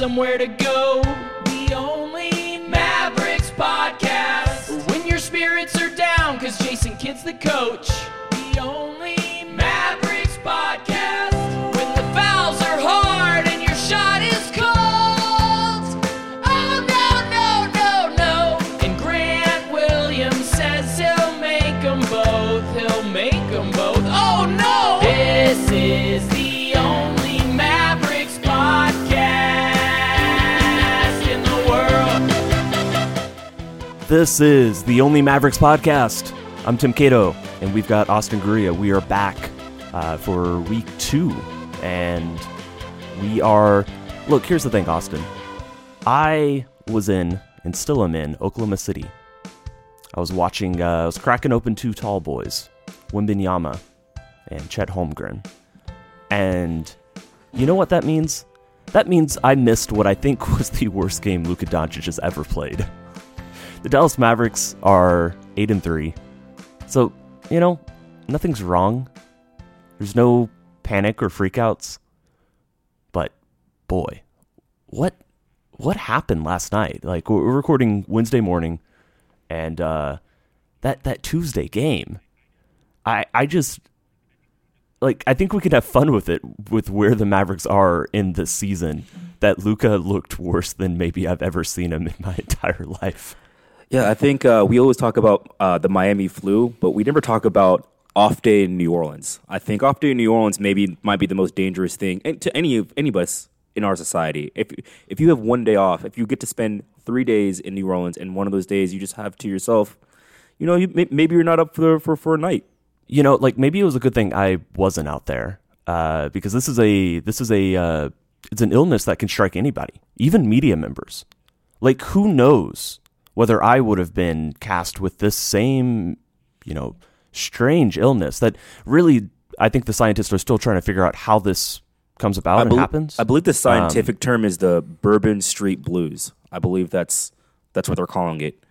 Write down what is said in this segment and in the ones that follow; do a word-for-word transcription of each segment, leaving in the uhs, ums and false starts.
somewhere to go. The only Mavericks podcast. When your spirits are down, cause Jason Kidd's the coach. The only Mavericks podcast. When the fouls are hard and your shot is cold. Oh no, no, no, no. And Grant Williams says he'll make them both. He'll make them both. Oh no! This is the only Mavericks podcast in the world. This is the Only Mavericks podcast. I'm Tim Cato, and we've got Austin Guria. We are back uh, for week two, and we are... Look, here's the thing, Austin. I was in, and still am in, Oklahoma City. I was watching, uh, I was cracking open two tall boys, Wembanyama and Chet Holmgren. And you know what that means? That means I missed what I think was the worst game Luka Doncic has ever played. The Dallas Mavericks are eight and three. So, you know, nothing's wrong. There's no panic or freakouts. But boy, what what happened last night? Like, we're recording Wednesday morning, and uh, that that Tuesday game, I I just like I think we could have fun with it with where the Mavericks are in the season. That Luka looked worse than maybe I've ever seen him in my entire life. Yeah, I think uh, we always talk about uh, the Miami flu, but we never talk about off day in New Orleans. I think off day in New Orleans maybe might be the most dangerous thing to any of any of us in our society. If if you have one day off, if you get to spend three days in New Orleans, and one of those days you just have to yourself, you know, you, maybe you're not up for for for a night. You know, like maybe it was a good thing I wasn't out there uh, because this is a this is a uh, it's an illness that can strike anybody, even media members. Like, who knows whether I would have been cast with this same, you know, strange illness that really, I think the scientists are still trying to figure out how this comes about I and be- happens. I believe the scientific um, term is the Bourbon Street Blues. I believe that's that's what they're calling it.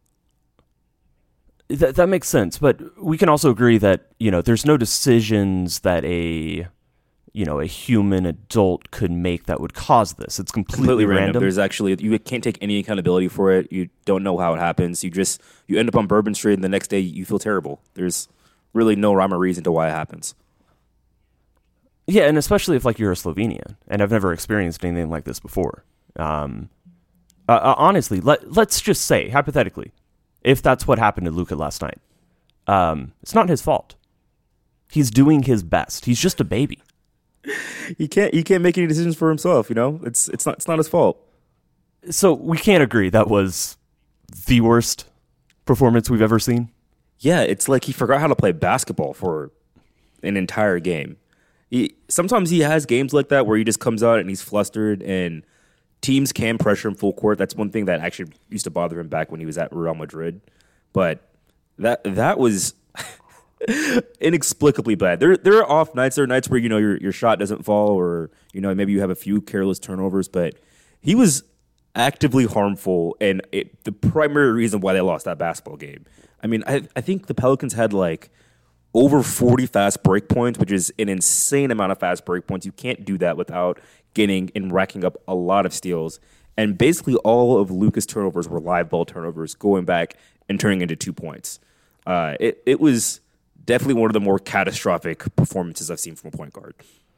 That that makes sense, but we can also agree that, you know, there's no decisions that a, you know, a human adult could make that would cause this. It's completely, completely random. random. There's actually, you can't take any accountability for it. You don't know how it happens. You just, you end up on Bourbon Street, and the next day you feel terrible. There's really no rhyme or reason to why it happens. Yeah, and especially if, like, you're a Slovenian, and I've never experienced anything like this before. Um, uh, uh, honestly, let, let's just say, hypothetically, if that's what happened to Luka last night, um, it's not his fault. He's doing his best. He's just a baby. He can't, he can't make any decisions for himself, you know? It's it's not it's not his fault. So we can't agree that was the worst performance we've ever seen? Yeah, it's like he forgot how to play basketball for an entire game. He, sometimes he has games like that where he just comes out and he's flustered, and teams can pressure him full court. That's one thing that actually used to bother him back when he was at Real Madrid. But that that was inexplicably bad. There there are off nights. There are nights where, you know, your your shot doesn't fall, or, you know, maybe you have a few careless turnovers. But he was actively harmful, and it, the primary reason why they lost that basketball game. I mean, I I think the Pelicans had like over forty fast break points, which is an insane amount of fast break points. You can't do that without getting and racking up a lot of steals. And basically all of Luka's turnovers were live ball turnovers, going back and turning into two points. Uh, it it was definitely one of the more catastrophic performances I've seen from a point guard.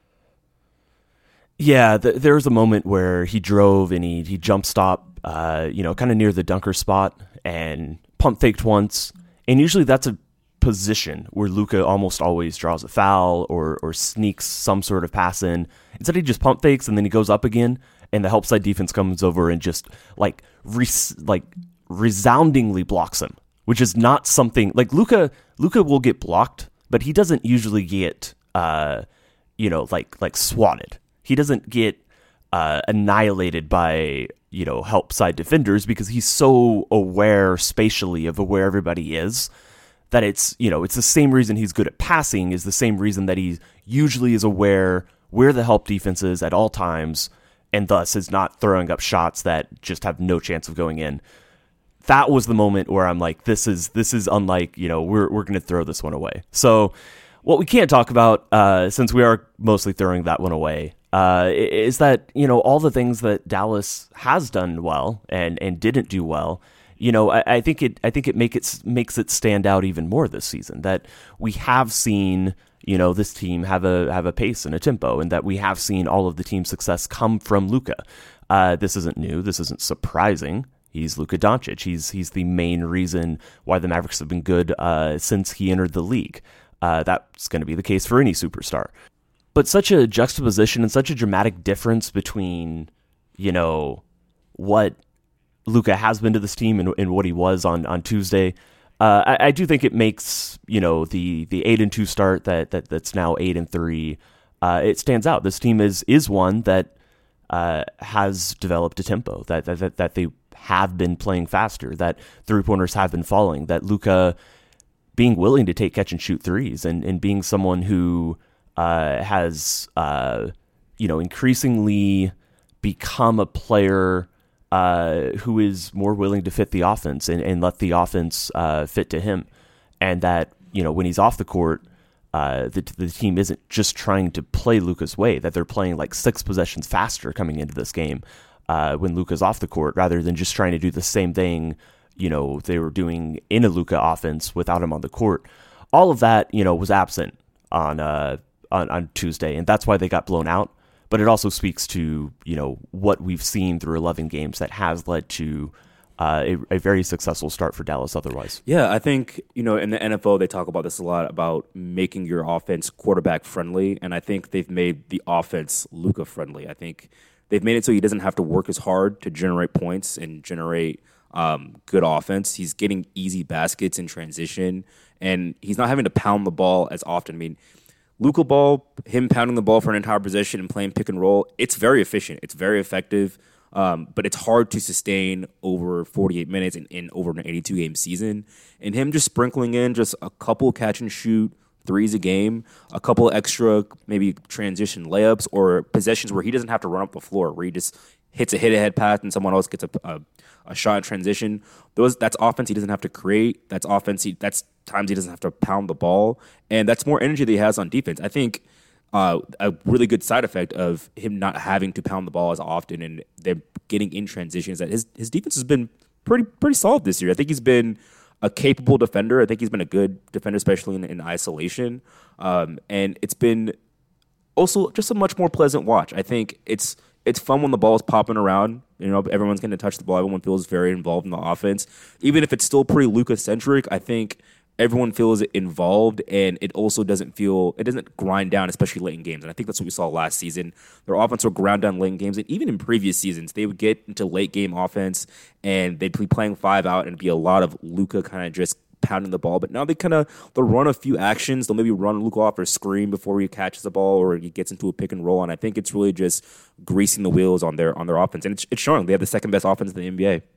Yeah, th- there was a moment where he drove and he he jump stop, uh, you know, kind of near the dunker spot, and pump faked once. And usually that's a position where Luka almost always draws a foul or or sneaks some sort of pass in. Instead, he just pump fakes and then he goes up again, and the help side defense comes over and just like res- like resoundingly blocks him, which is not something like Luka. Luka will get blocked, but he doesn't usually get, uh, you know, like like swatted. He doesn't get uh, annihilated by, you know, help side defenders because he's so aware spatially of where everybody is that it's, you know, it's the same reason he's good at passing is the same reason that he usually is aware where the help defense is at all times, and thus is not throwing up shots that just have no chance of going in. That was the moment where I'm like, this is this is unlike, you know, we're we're going to throw this one away. So what we can't talk about, uh, since we are mostly throwing that one away, uh, is that, you know, all the things that Dallas has done well and, and didn't do well, you know, I, I think it I think it make it makes it stand out even more this season, that we have seen, you know, this team have a have a pace and a tempo, and that we have seen all of the team's success come from Luka. Uh, this isn't new. This isn't surprising. He's Luka Doncic. He's he's the main reason why the Mavericks have been good uh, since he entered the league. Uh, that's going to be the case for any superstar. But such a juxtaposition and such a dramatic difference between, you know, what Luka has been to this team and, and what he was on on Tuesday. Uh, I, I do think it makes, you know, the the eight and two start that that that's now eight and three. Uh, it stands out. This team is is one that uh, has developed a tempo, that that that they have been playing faster, that three pointers have been falling, that Luka being willing to take catch and shoot threes, and, and being someone who uh, has uh, you know increasingly become a player uh, who is more willing to fit the offense and, and let the offense uh, fit to him, and that, you know, when he's off the court, uh, the the team isn't just trying to play Luka's way, that they're playing like six possessions faster coming into this game uh, when Luka's off the court, rather than just trying to do the same thing, you know, they were doing in a Luka offense without him on the court. All of that, you know, was absent on uh on, on Tuesday, and that's why they got blown out. But it also speaks to, you know, what we've seen through eleven games that has led to uh, a, a very successful start for Dallas otherwise. Yeah, I think, you know, in the N F L, they talk about this a lot, about making your offense quarterback friendly. And I think they've made the offense Luka friendly. I think they've made it so he doesn't have to work as hard to generate points and generate um, good offense. He's getting easy baskets in transition, and he's not having to pound the ball as often. I mean, Luka ball, him pounding the ball for an entire possession and playing pick and roll, it's very efficient. It's very effective, um, but it's hard to sustain over forty-eight minutes in, in over an eighty-two game season. And him just sprinkling in just a couple catch and shoot threes a game, a couple extra maybe transition layups or possessions where he doesn't have to run up the floor, where he just hits a hit-ahead pass and someone else gets a, a, a shot in transition. Those That's offense he doesn't have to create. That's offense he, that's times he doesn't have to pound the ball. And that's more energy that he has on defense. I think uh, a really good side effect of him not having to pound the ball as often and them getting in transition is that his, his defense has been pretty pretty solid this year. I think he's been a capable defender. I think he's been a good defender, especially in, in isolation. Um, and it's been also just a much more pleasant watch. I think it's it's fun when the ball is popping around. You know, everyone's going to touch the ball. Everyone feels very involved in the offense. Even if it's still pretty Luka-centric, I think everyone feels involved, and it also doesn't feel, it doesn't grind down, especially late in games. And I think that's what we saw last season. Their offense would grind down late in games, and even in previous seasons, they would get into late game offense, and they'd be playing five out, and it'd be a lot of Luka kind of just pounding the ball. But now they kind of, they'll run a few actions. They'll maybe run Luka off or screen before he catches the ball or he gets into a pick and roll. And I think it's really just greasing the wheels on their on their offense. And it's, it's showing. They have the second best offense in the N B A.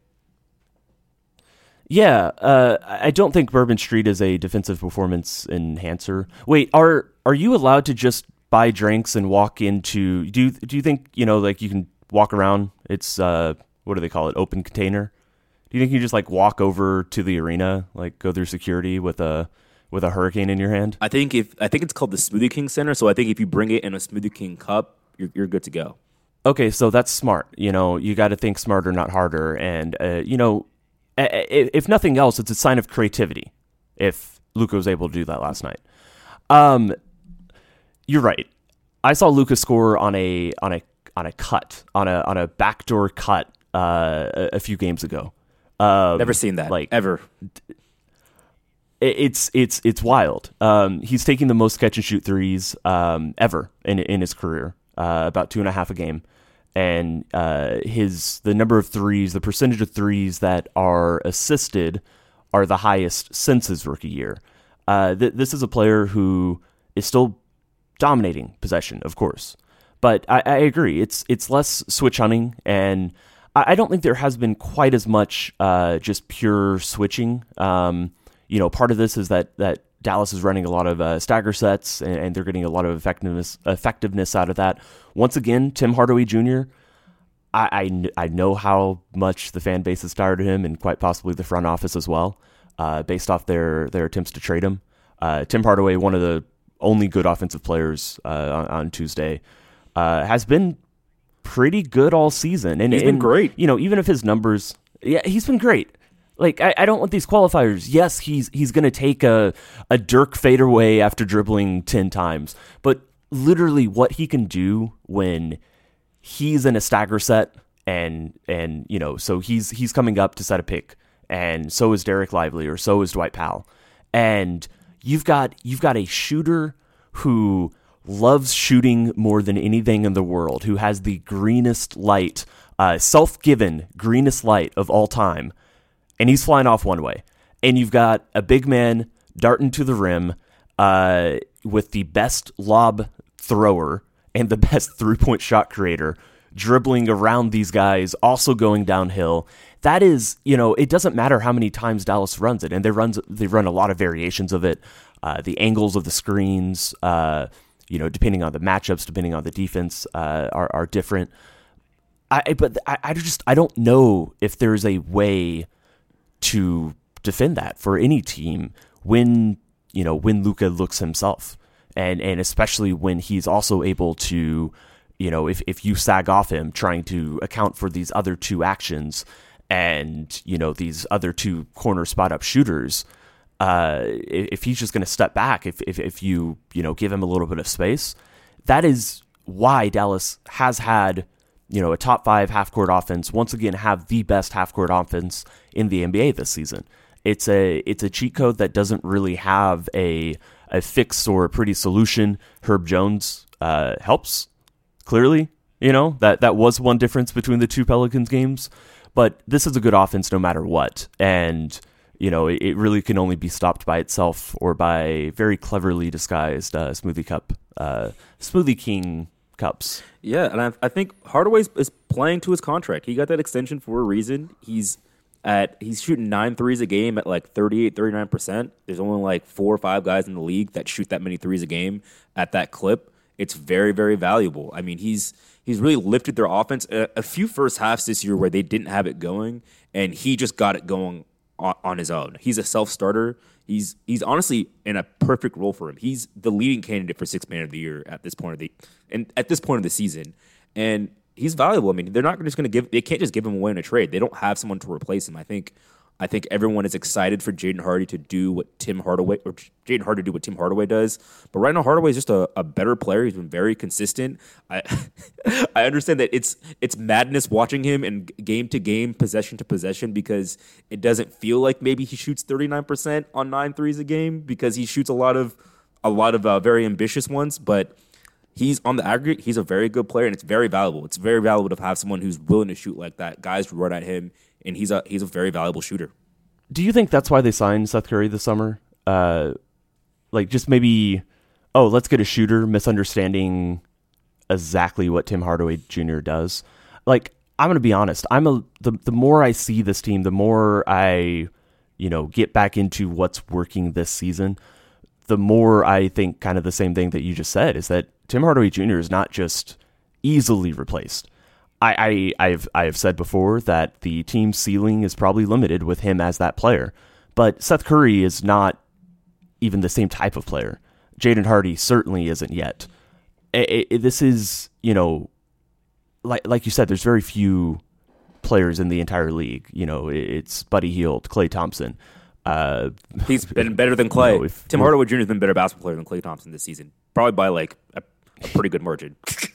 Yeah, uh, I don't think Bourbon Street is a defensive performance enhancer. Wait, are are you allowed to just buy drinks and walk into? Do you do you think, you know, like you can walk around? It's uh, what do they call it? Open container. Do you think you just like walk over to the arena, like go through security with a with a hurricane in your hand? I think if I think it's called the Smoothie King Center. So I think if you bring it in a Smoothie King cup, you're you're good to go. Okay, so that's smart. You know, you got to think smarter, not harder. And uh, you know, if nothing else, it's a sign of creativity if Luka was able to do that last night. Um, you're right. I saw Luka score on a on a on a cut on a on a backdoor cut uh, a, a few games ago. Um, Never seen that, like ever. It's it's it's wild. Um, he's taking the most catch and shoot threes um, ever in in his career, uh, about two and a half a game. And uh, his the number of threes, the percentage of threes that are assisted, are the highest since his rookie year. Uh, th- this is a player who is still dominating possession, of course, but I, I agree. It's it's less switch hunting, and I, I don't think there has been quite as much uh, just pure switching. Um, you know, part of this is that that Dallas is running a lot of uh, stagger sets, and, and they're getting a lot of effectiveness effectiveness out of that. Once again, Tim Hardaway Junior, I, I, I know how much the fan base is tired of him, and quite possibly the front office as well, uh, based off their, their attempts to trade him. Uh, Tim Hardaway, one of the only good offensive players uh, on, on Tuesday. uh, has been pretty good all season. And He's been and, great. You know, even if his numbers, yeah, he's been great. Like, I, I don't want these qualifiers. Yes, he's he's going to take a, a Dirk fadeaway after dribbling ten times. But literally what he can do when he's in a stagger set and, and you know, so he's he's coming up to set a pick. And so is Derek Lively, or so is Dwight Powell. And you've got you've got a shooter who loves shooting more than anything in the world, who has the greenest light, uh, self-given greenest light of all time, and he's flying off one way. And you've got a big man darting to the rim uh, with the best lob thrower and the best three-point shot creator dribbling around these guys, also going downhill. That is, you know, it doesn't matter how many times Dallas runs it, and they runs they run a lot of variations of it. Uh, the angles of the screens, uh, you know, depending on the matchups, depending on the defense, uh, are are different. I but I, I just I don't know if there's a way to defend that for any team when you know when Luka looks himself, and and especially when he's also able to, you know, if if you sag off him trying to account for these other two actions and you know these other two corner spot up shooters. Uh, if he's just going to step back, if, if if you you know give him a little bit of space, that is why Dallas has had you know a top five half court offense. Once again, have the best half court offense in the N B A this season. It's a it's a cheat code that doesn't really have a a fix or a pretty solution. Herb Jones uh, helps clearly. You know that that was one difference between the two Pelicans games, but this is a good offense no matter what, and. You know, it, it really can only be stopped by itself or by very cleverly disguised uh, Smoothie Cup, uh, Smoothie King cups. Yeah, and I, I think Hardaway is playing to his contract. He got that extension for a reason. He's at he's shooting nine threes a game at like thirty-eight, thirty-nine percent. There's only like four or five guys in the league that shoot that many threes a game at that clip. It's very, very valuable. I mean, he's he's really lifted their offense. A, a few first halves this year where they didn't have it going, and he just got it going on his own. He's a self-starter. He's he's honestly in a perfect role for him. He's the leading candidate for sixth man of the year at this point of the and at this point of the season. And he's valuable. I mean, they're not just going to give. They can't just give him away in a trade. They don't have someone to replace him. I think. I think everyone is excited for Jaden Hardy to do what Tim Hardaway or Jaden Hardy to do what Tim Hardaway does. But right now, Hardaway is just a, a better player. He's been very consistent. I I understand that it's it's madness watching him and game to game, possession to possession, because it doesn't feel like maybe he shoots thirty-nine percent on nine threes a game because he shoots a lot of a lot of uh, very ambitious ones. But he's on the aggregate. He's a very good player, and it's very valuable. It's very valuable to have someone who's willing to shoot like that. Guys run at him. And he's a he's a very valuable shooter. Do you think that's why they signed Seth Curry this summer? Uh, like just maybe, oh, let's get a shooter, misunderstanding exactly what Tim Hardaway Junior does. Like, I'm going to be honest. I'm a the the more I see this team, the more I, you know, get back into what's working this season, the more I think kind of the same thing that you just said, is that Tim Hardaway Junior is not just easily replaced. I, I, I've I've said before that the team's ceiling is probably limited with him as that player, but Seth Curry is not even the same type of player. Jaden Hardy certainly isn't yet. It, it, this is, you know, like like you said, there's very few players in the entire league. You know, it's Buddy Hield, Klay Thompson. Uh, He's been better than Klay. You know, if, Tim Hardaway Junior has been a better basketball player than Klay Thompson this season, probably by like a, a pretty good margin.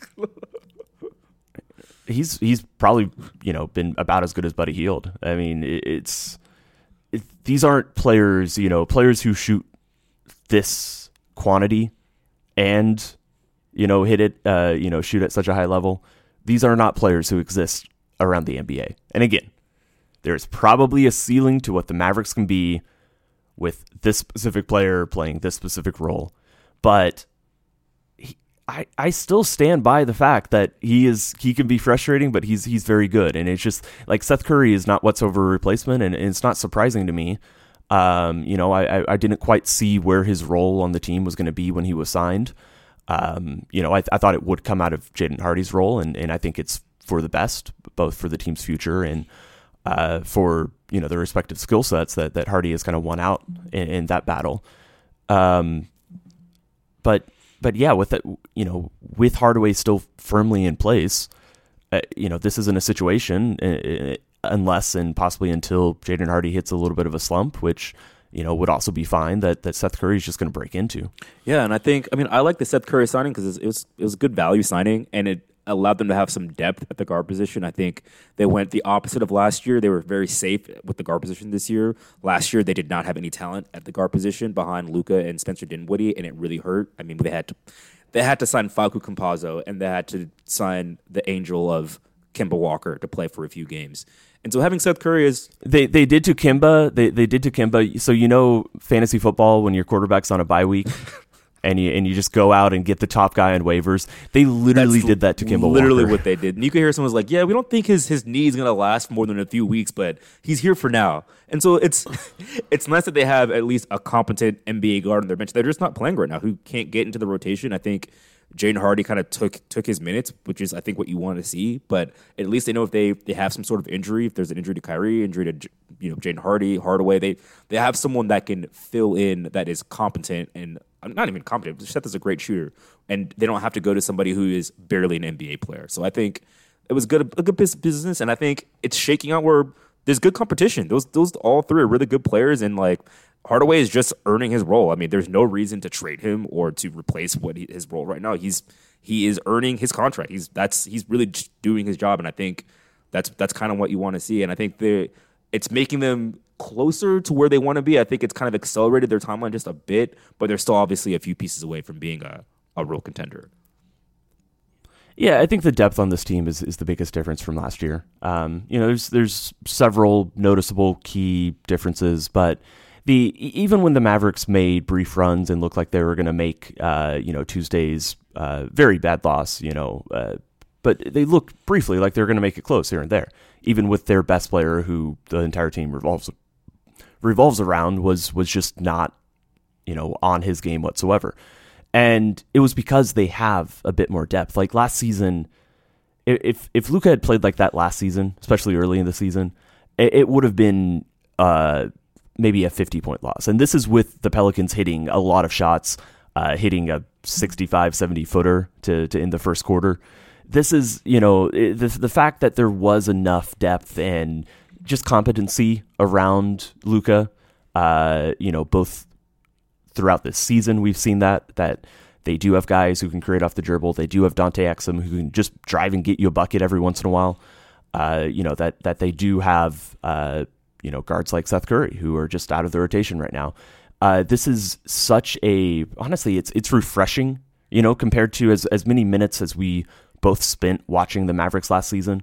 He's he's probably, you know, been about as good as Buddy Hield. I mean, it, it's it, these aren't players, you know, players who shoot this quantity and, you know, hit it, uh, you know, shoot at such a high level. These are not players who exist around the N B A. And again, there's probably a ceiling to what the Mavericks can be with this specific player playing this specific role, but I, I still stand by the fact that he is he can be frustrating, but he's he's very good. And it's just like Seth Curry is not whatsoever a replacement, and, and it's not surprising to me. Um, you know, I, I didn't quite see where his role on the team was going to be when he was signed. Um, you know, I, I thought it would come out of Jaden Hardy's role, and, and I think it's for the best, both for the team's future and uh, for, you know, the respective skill sets that, that Hardy has kind of won out in, in that battle. Um, but but yeah, with it, you know, with Hardaway still firmly in place, uh, you know, this isn't a situation uh, unless and possibly until Jaden Hardy hits a little bit of a slump, which, you know, would also be fine, that, that Seth Curry is just going to break into. Yeah, and I think, I mean, I like the Seth Curry signing because it was it was a good value signing, and it allowed them to have some depth at the guard position. I think they went the opposite of last year. They were very safe with the guard position this year. Last year, they did not have any talent at the guard position behind Luka and Spencer Dinwiddie, and it really hurt. I mean, they had to they had to sign Facu Campazzo, and they had to sign the angel of Kemba Walker to play for a few games. And so having Seth Curry is... They they did to Kemba. They they did to Kemba. So you know fantasy football when your quarterback's on a bye week and you and you just go out and get the top guy on waivers. They literally That's did that to Kemba literally Walker. what they did. And you could hear someone was like, yeah, we don't think his, his knee is going to last more than a few weeks, but he's here for now. And so it's it's nice that they have at least a competent N B A guard on their bench. They're just not playing right now, who can't get into the rotation. I think Jaden Hardy kind of took took his minutes, which is, I think, what you want to see. But at least they know if they, they have some sort of injury, if there's an injury to Kyrie, injury to you know Jaden Hardy, Hardaway, they they have someone that can fill in that is competent and not even competent. Seth is a great shooter, and they don't have to go to somebody who is barely an N B A player. So I think it was good a good business, and I think it's shaking out where there's good competition. Those those all three are really good players, and like Hardaway is just earning his role. I mean, there's no reason to trade him or to replace what he, his role right now. He's he is earning his contract. He's that's he's really just doing his job, and I think that's that's kind of what you want to see. And I think they it's making them closer to where they want to be. I think it's kind of accelerated their timeline just a bit, but they're still obviously a few pieces away from being a, a real contender. Yeah, I think the depth on this team is, is the biggest difference from last year. Um, you know, there's there's several noticeable key differences, but the even when the Mavericks made brief runs and looked like they were going to make uh, you know Tuesday's uh, very bad loss, you know, uh, but they looked briefly like they were going to make it close here and there, even with their best player, who the entire team revolves revolves around, was was just not you know on his game whatsoever. And it was because they have a bit more depth. Like last season, if if Luka had played like that last season, especially early in the season, it, it would have been uh, maybe a fifty-point loss. And this is with the Pelicans hitting a lot of shots, uh, hitting a sixty-five, seventy-footer to, to end the first quarter. This is, you know, the, the fact that there was enough depth and just competency around Luka, uh, you know, both throughout this season, we've seen that, that they do have guys who can create off the dribble. They do have Dante Exum who can just drive and get you a bucket every once in a while. Uh, you know, that, that they do have, uh, you know, guards like Seth Curry who are just out of the rotation right now. Uh, this is such a, honestly, it's, it's refreshing, you know, compared to as, as many minutes as we both spent watching the Mavericks last season.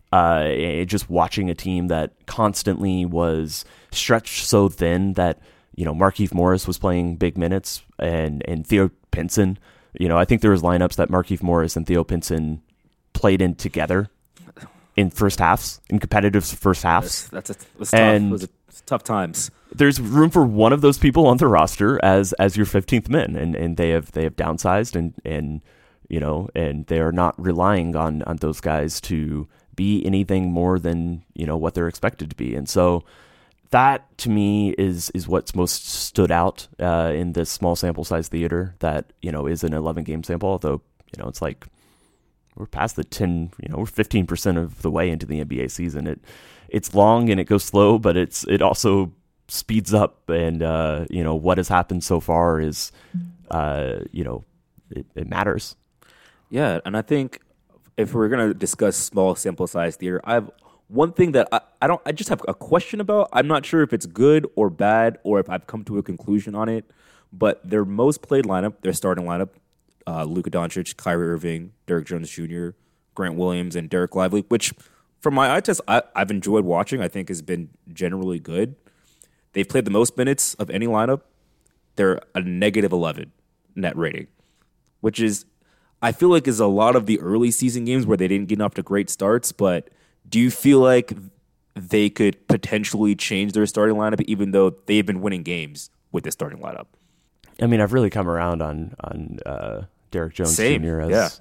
Uh, just watching a team that constantly was stretched so thin that, you know, Markieff Morris was playing big minutes, and, and Theo Pinson. You know, I think there was lineups that Markieff Morris and Theo Pinson played in together in first halves, in competitive first halves. That's, that's a, it was tough. And it was a, tough times. There's room for one of those people on the roster as as your fifteenth man, and, and they have they have downsized, and and you know, and they are not relying on on those guys to be anything more than, you know, what they're expected to be, and so. That, to me, is is what's most stood out uh, in this small sample size theater that, you know, is an eleven-game sample, although, you know, it's like we're past the ten, you know, we're fifteen percent of the way into the N B A season. It It's long and it goes slow, but it's it also speeds up, and, uh, you know, what has happened so far is, uh, you know, it, it matters. Yeah, and I think if we're going to discuss small sample size theater, I've One thing that I, I don't, I just have a question about. I'm not sure if it's good or bad, or if I've come to a conclusion on it. But their most played lineup, their starting lineup, uh, Luka Doncic, Kyrie Irving, Derrick Jones Junior, Grant Williams, and Derek Lively, which from my eye test, I, I've enjoyed watching. I think has been generally good. They've played the most minutes of any lineup. They're a negative eleven net rating, which is, I feel like, is a lot of the early season games where they didn't get off to great starts, but. Do you feel like they could potentially change their starting lineup, even though they've been winning games with this starting lineup? I mean, I've really come around on on uh, Derrick Jones Same. Junior as yeah.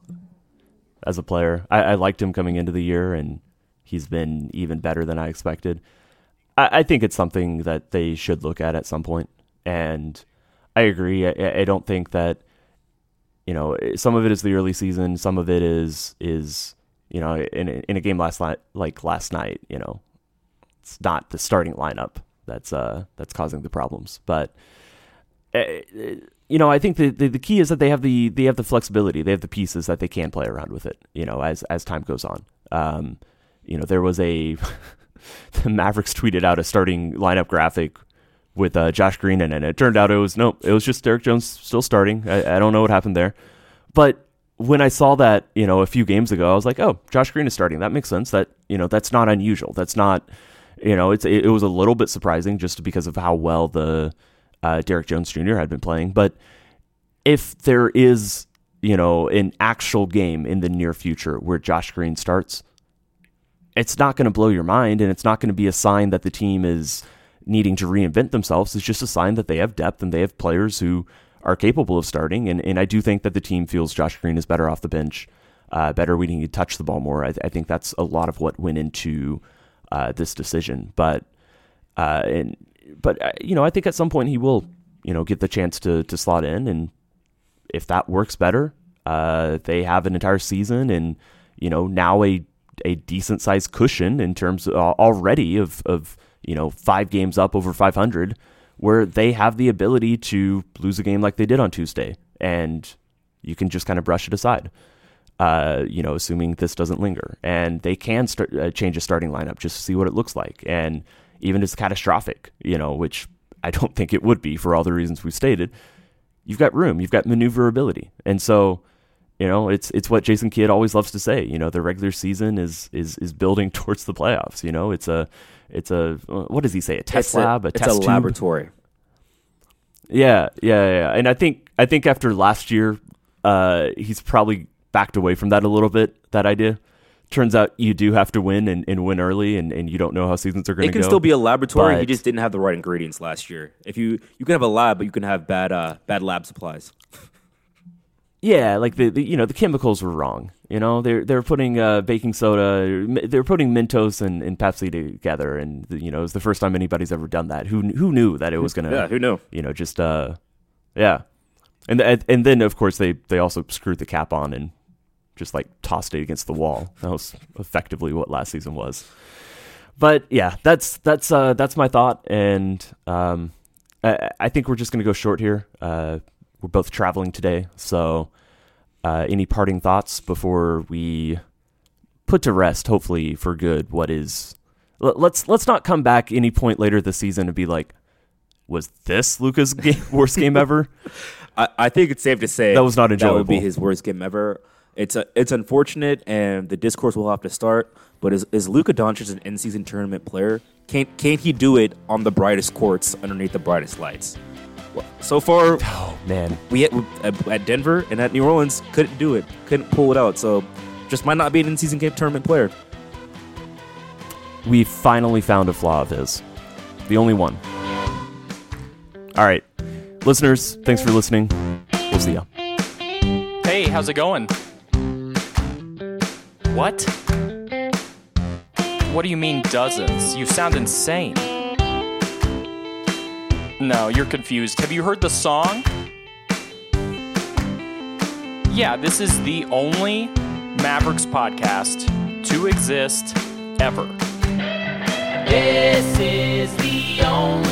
as a player. I, I liked him coming into the year, and he's been even better than I expected. I, I think it's something that they should look at at some point, and I agree. I, I don't think that you know, some of it is the early season, some of it is is you know, in in a game last night, like last night, you know, it's not the starting lineup that's uh that's causing the problems, but. Uh, You know, I think the, the the key is that they have the they have the flexibility, they have the pieces that they can play around with it. You know, as as time goes on. Um, you know, there was a the Mavericks tweeted out a starting lineup graphic with uh, Josh Green in it. And it turned out it was no, it was just Derek Jones still starting. I, I don't know what happened there, but when I saw that, you know, a few games ago, I was like, oh, Josh Green is starting. That makes sense. That you know, that's not unusual. That's not, you know, it's it, it was a little bit surprising just because of how well the. Uh, Derek Jones Junior had been playing, but if there is, you know, an actual game in the near future where Josh Green starts, it's not going to blow your mind, and it's not going to be a sign that the team is needing to reinvent themselves. It's just a sign that they have depth and they have players who are capable of starting, and, and I do think that the team feels Josh Green is better off the bench, uh, better we need to touch the ball more. I, I think that's a lot of what went into uh, this decision, but uh, and But, you know, I think at some point he will, you know, get the chance to to slot in. And if that works better, uh, they have an entire season and, you know, now a a decent sized cushion in terms of, uh, already of, of, you know, five games up over five hundred, where they have the ability to lose a game like they did on Tuesday. And you can just kind of brush it aside, uh, you know, assuming this doesn't linger. And they can start, uh, change a starting lineup just to see what it looks like. And even if it's catastrophic, you know, which I don't think it would be for all the reasons we've stated, you've got room, you've got maneuverability. And so, you know, it's it's what Jason Kidd always loves to say, you know, the regular season is is is building towards the playoffs. You know, it's a, it's a, what does he say, a test it's lab, a, a it's test a tube? laboratory. Yeah, yeah, yeah. And I think, I think after last year, uh, he's probably backed away from that a little bit, that idea. Turns out you do have to win and, and win early, and, and you don't know how seasons are going to go. It can still be a laboratory. But, he just didn't have the right ingredients last year. If you you can have a lab, but you can have bad uh, bad lab supplies. Yeah, like the, the you know the chemicals were wrong. You know they're they're putting uh, baking soda, they're putting Mentos and, and Pepsi together, and you know it's the first time anybody's ever done that. Who who knew that it was gonna? Yeah, who knew? You know, just uh, yeah, and and then of course they they also screwed the cap on and just like tossed it against the wall. That was effectively what last season was. But yeah, that's that's uh, that's my thought, and um, I, I think we're just gonna go short here. Uh, we're both traveling today, so uh, any parting thoughts before we put to rest, hopefully for good, what is? Let's let's not come back any point later this season and be like, was this Luka's game, worst game ever? I, I think it's safe to say that was not enjoyable. That would be his worst game ever. It's a, it's unfortunate, and the discourse will have to start. But is is Luka Doncic an in-season tournament player? Can't can't he do it on the brightest courts underneath the brightest lights? Well, so far, oh man, we at, at Denver and at New Orleans couldn't do it, couldn't pull it out. So just might not be an in-season game tournament player. We finally found a flaw of his, the only one. All right, listeners, thanks for listening. We'll see ya. Hey, how's it going? What? What do you mean dozens? You sound insane. No, you're confused. Have you heard the song? Yeah, this is the only Mavericks podcast to exist ever. This is the only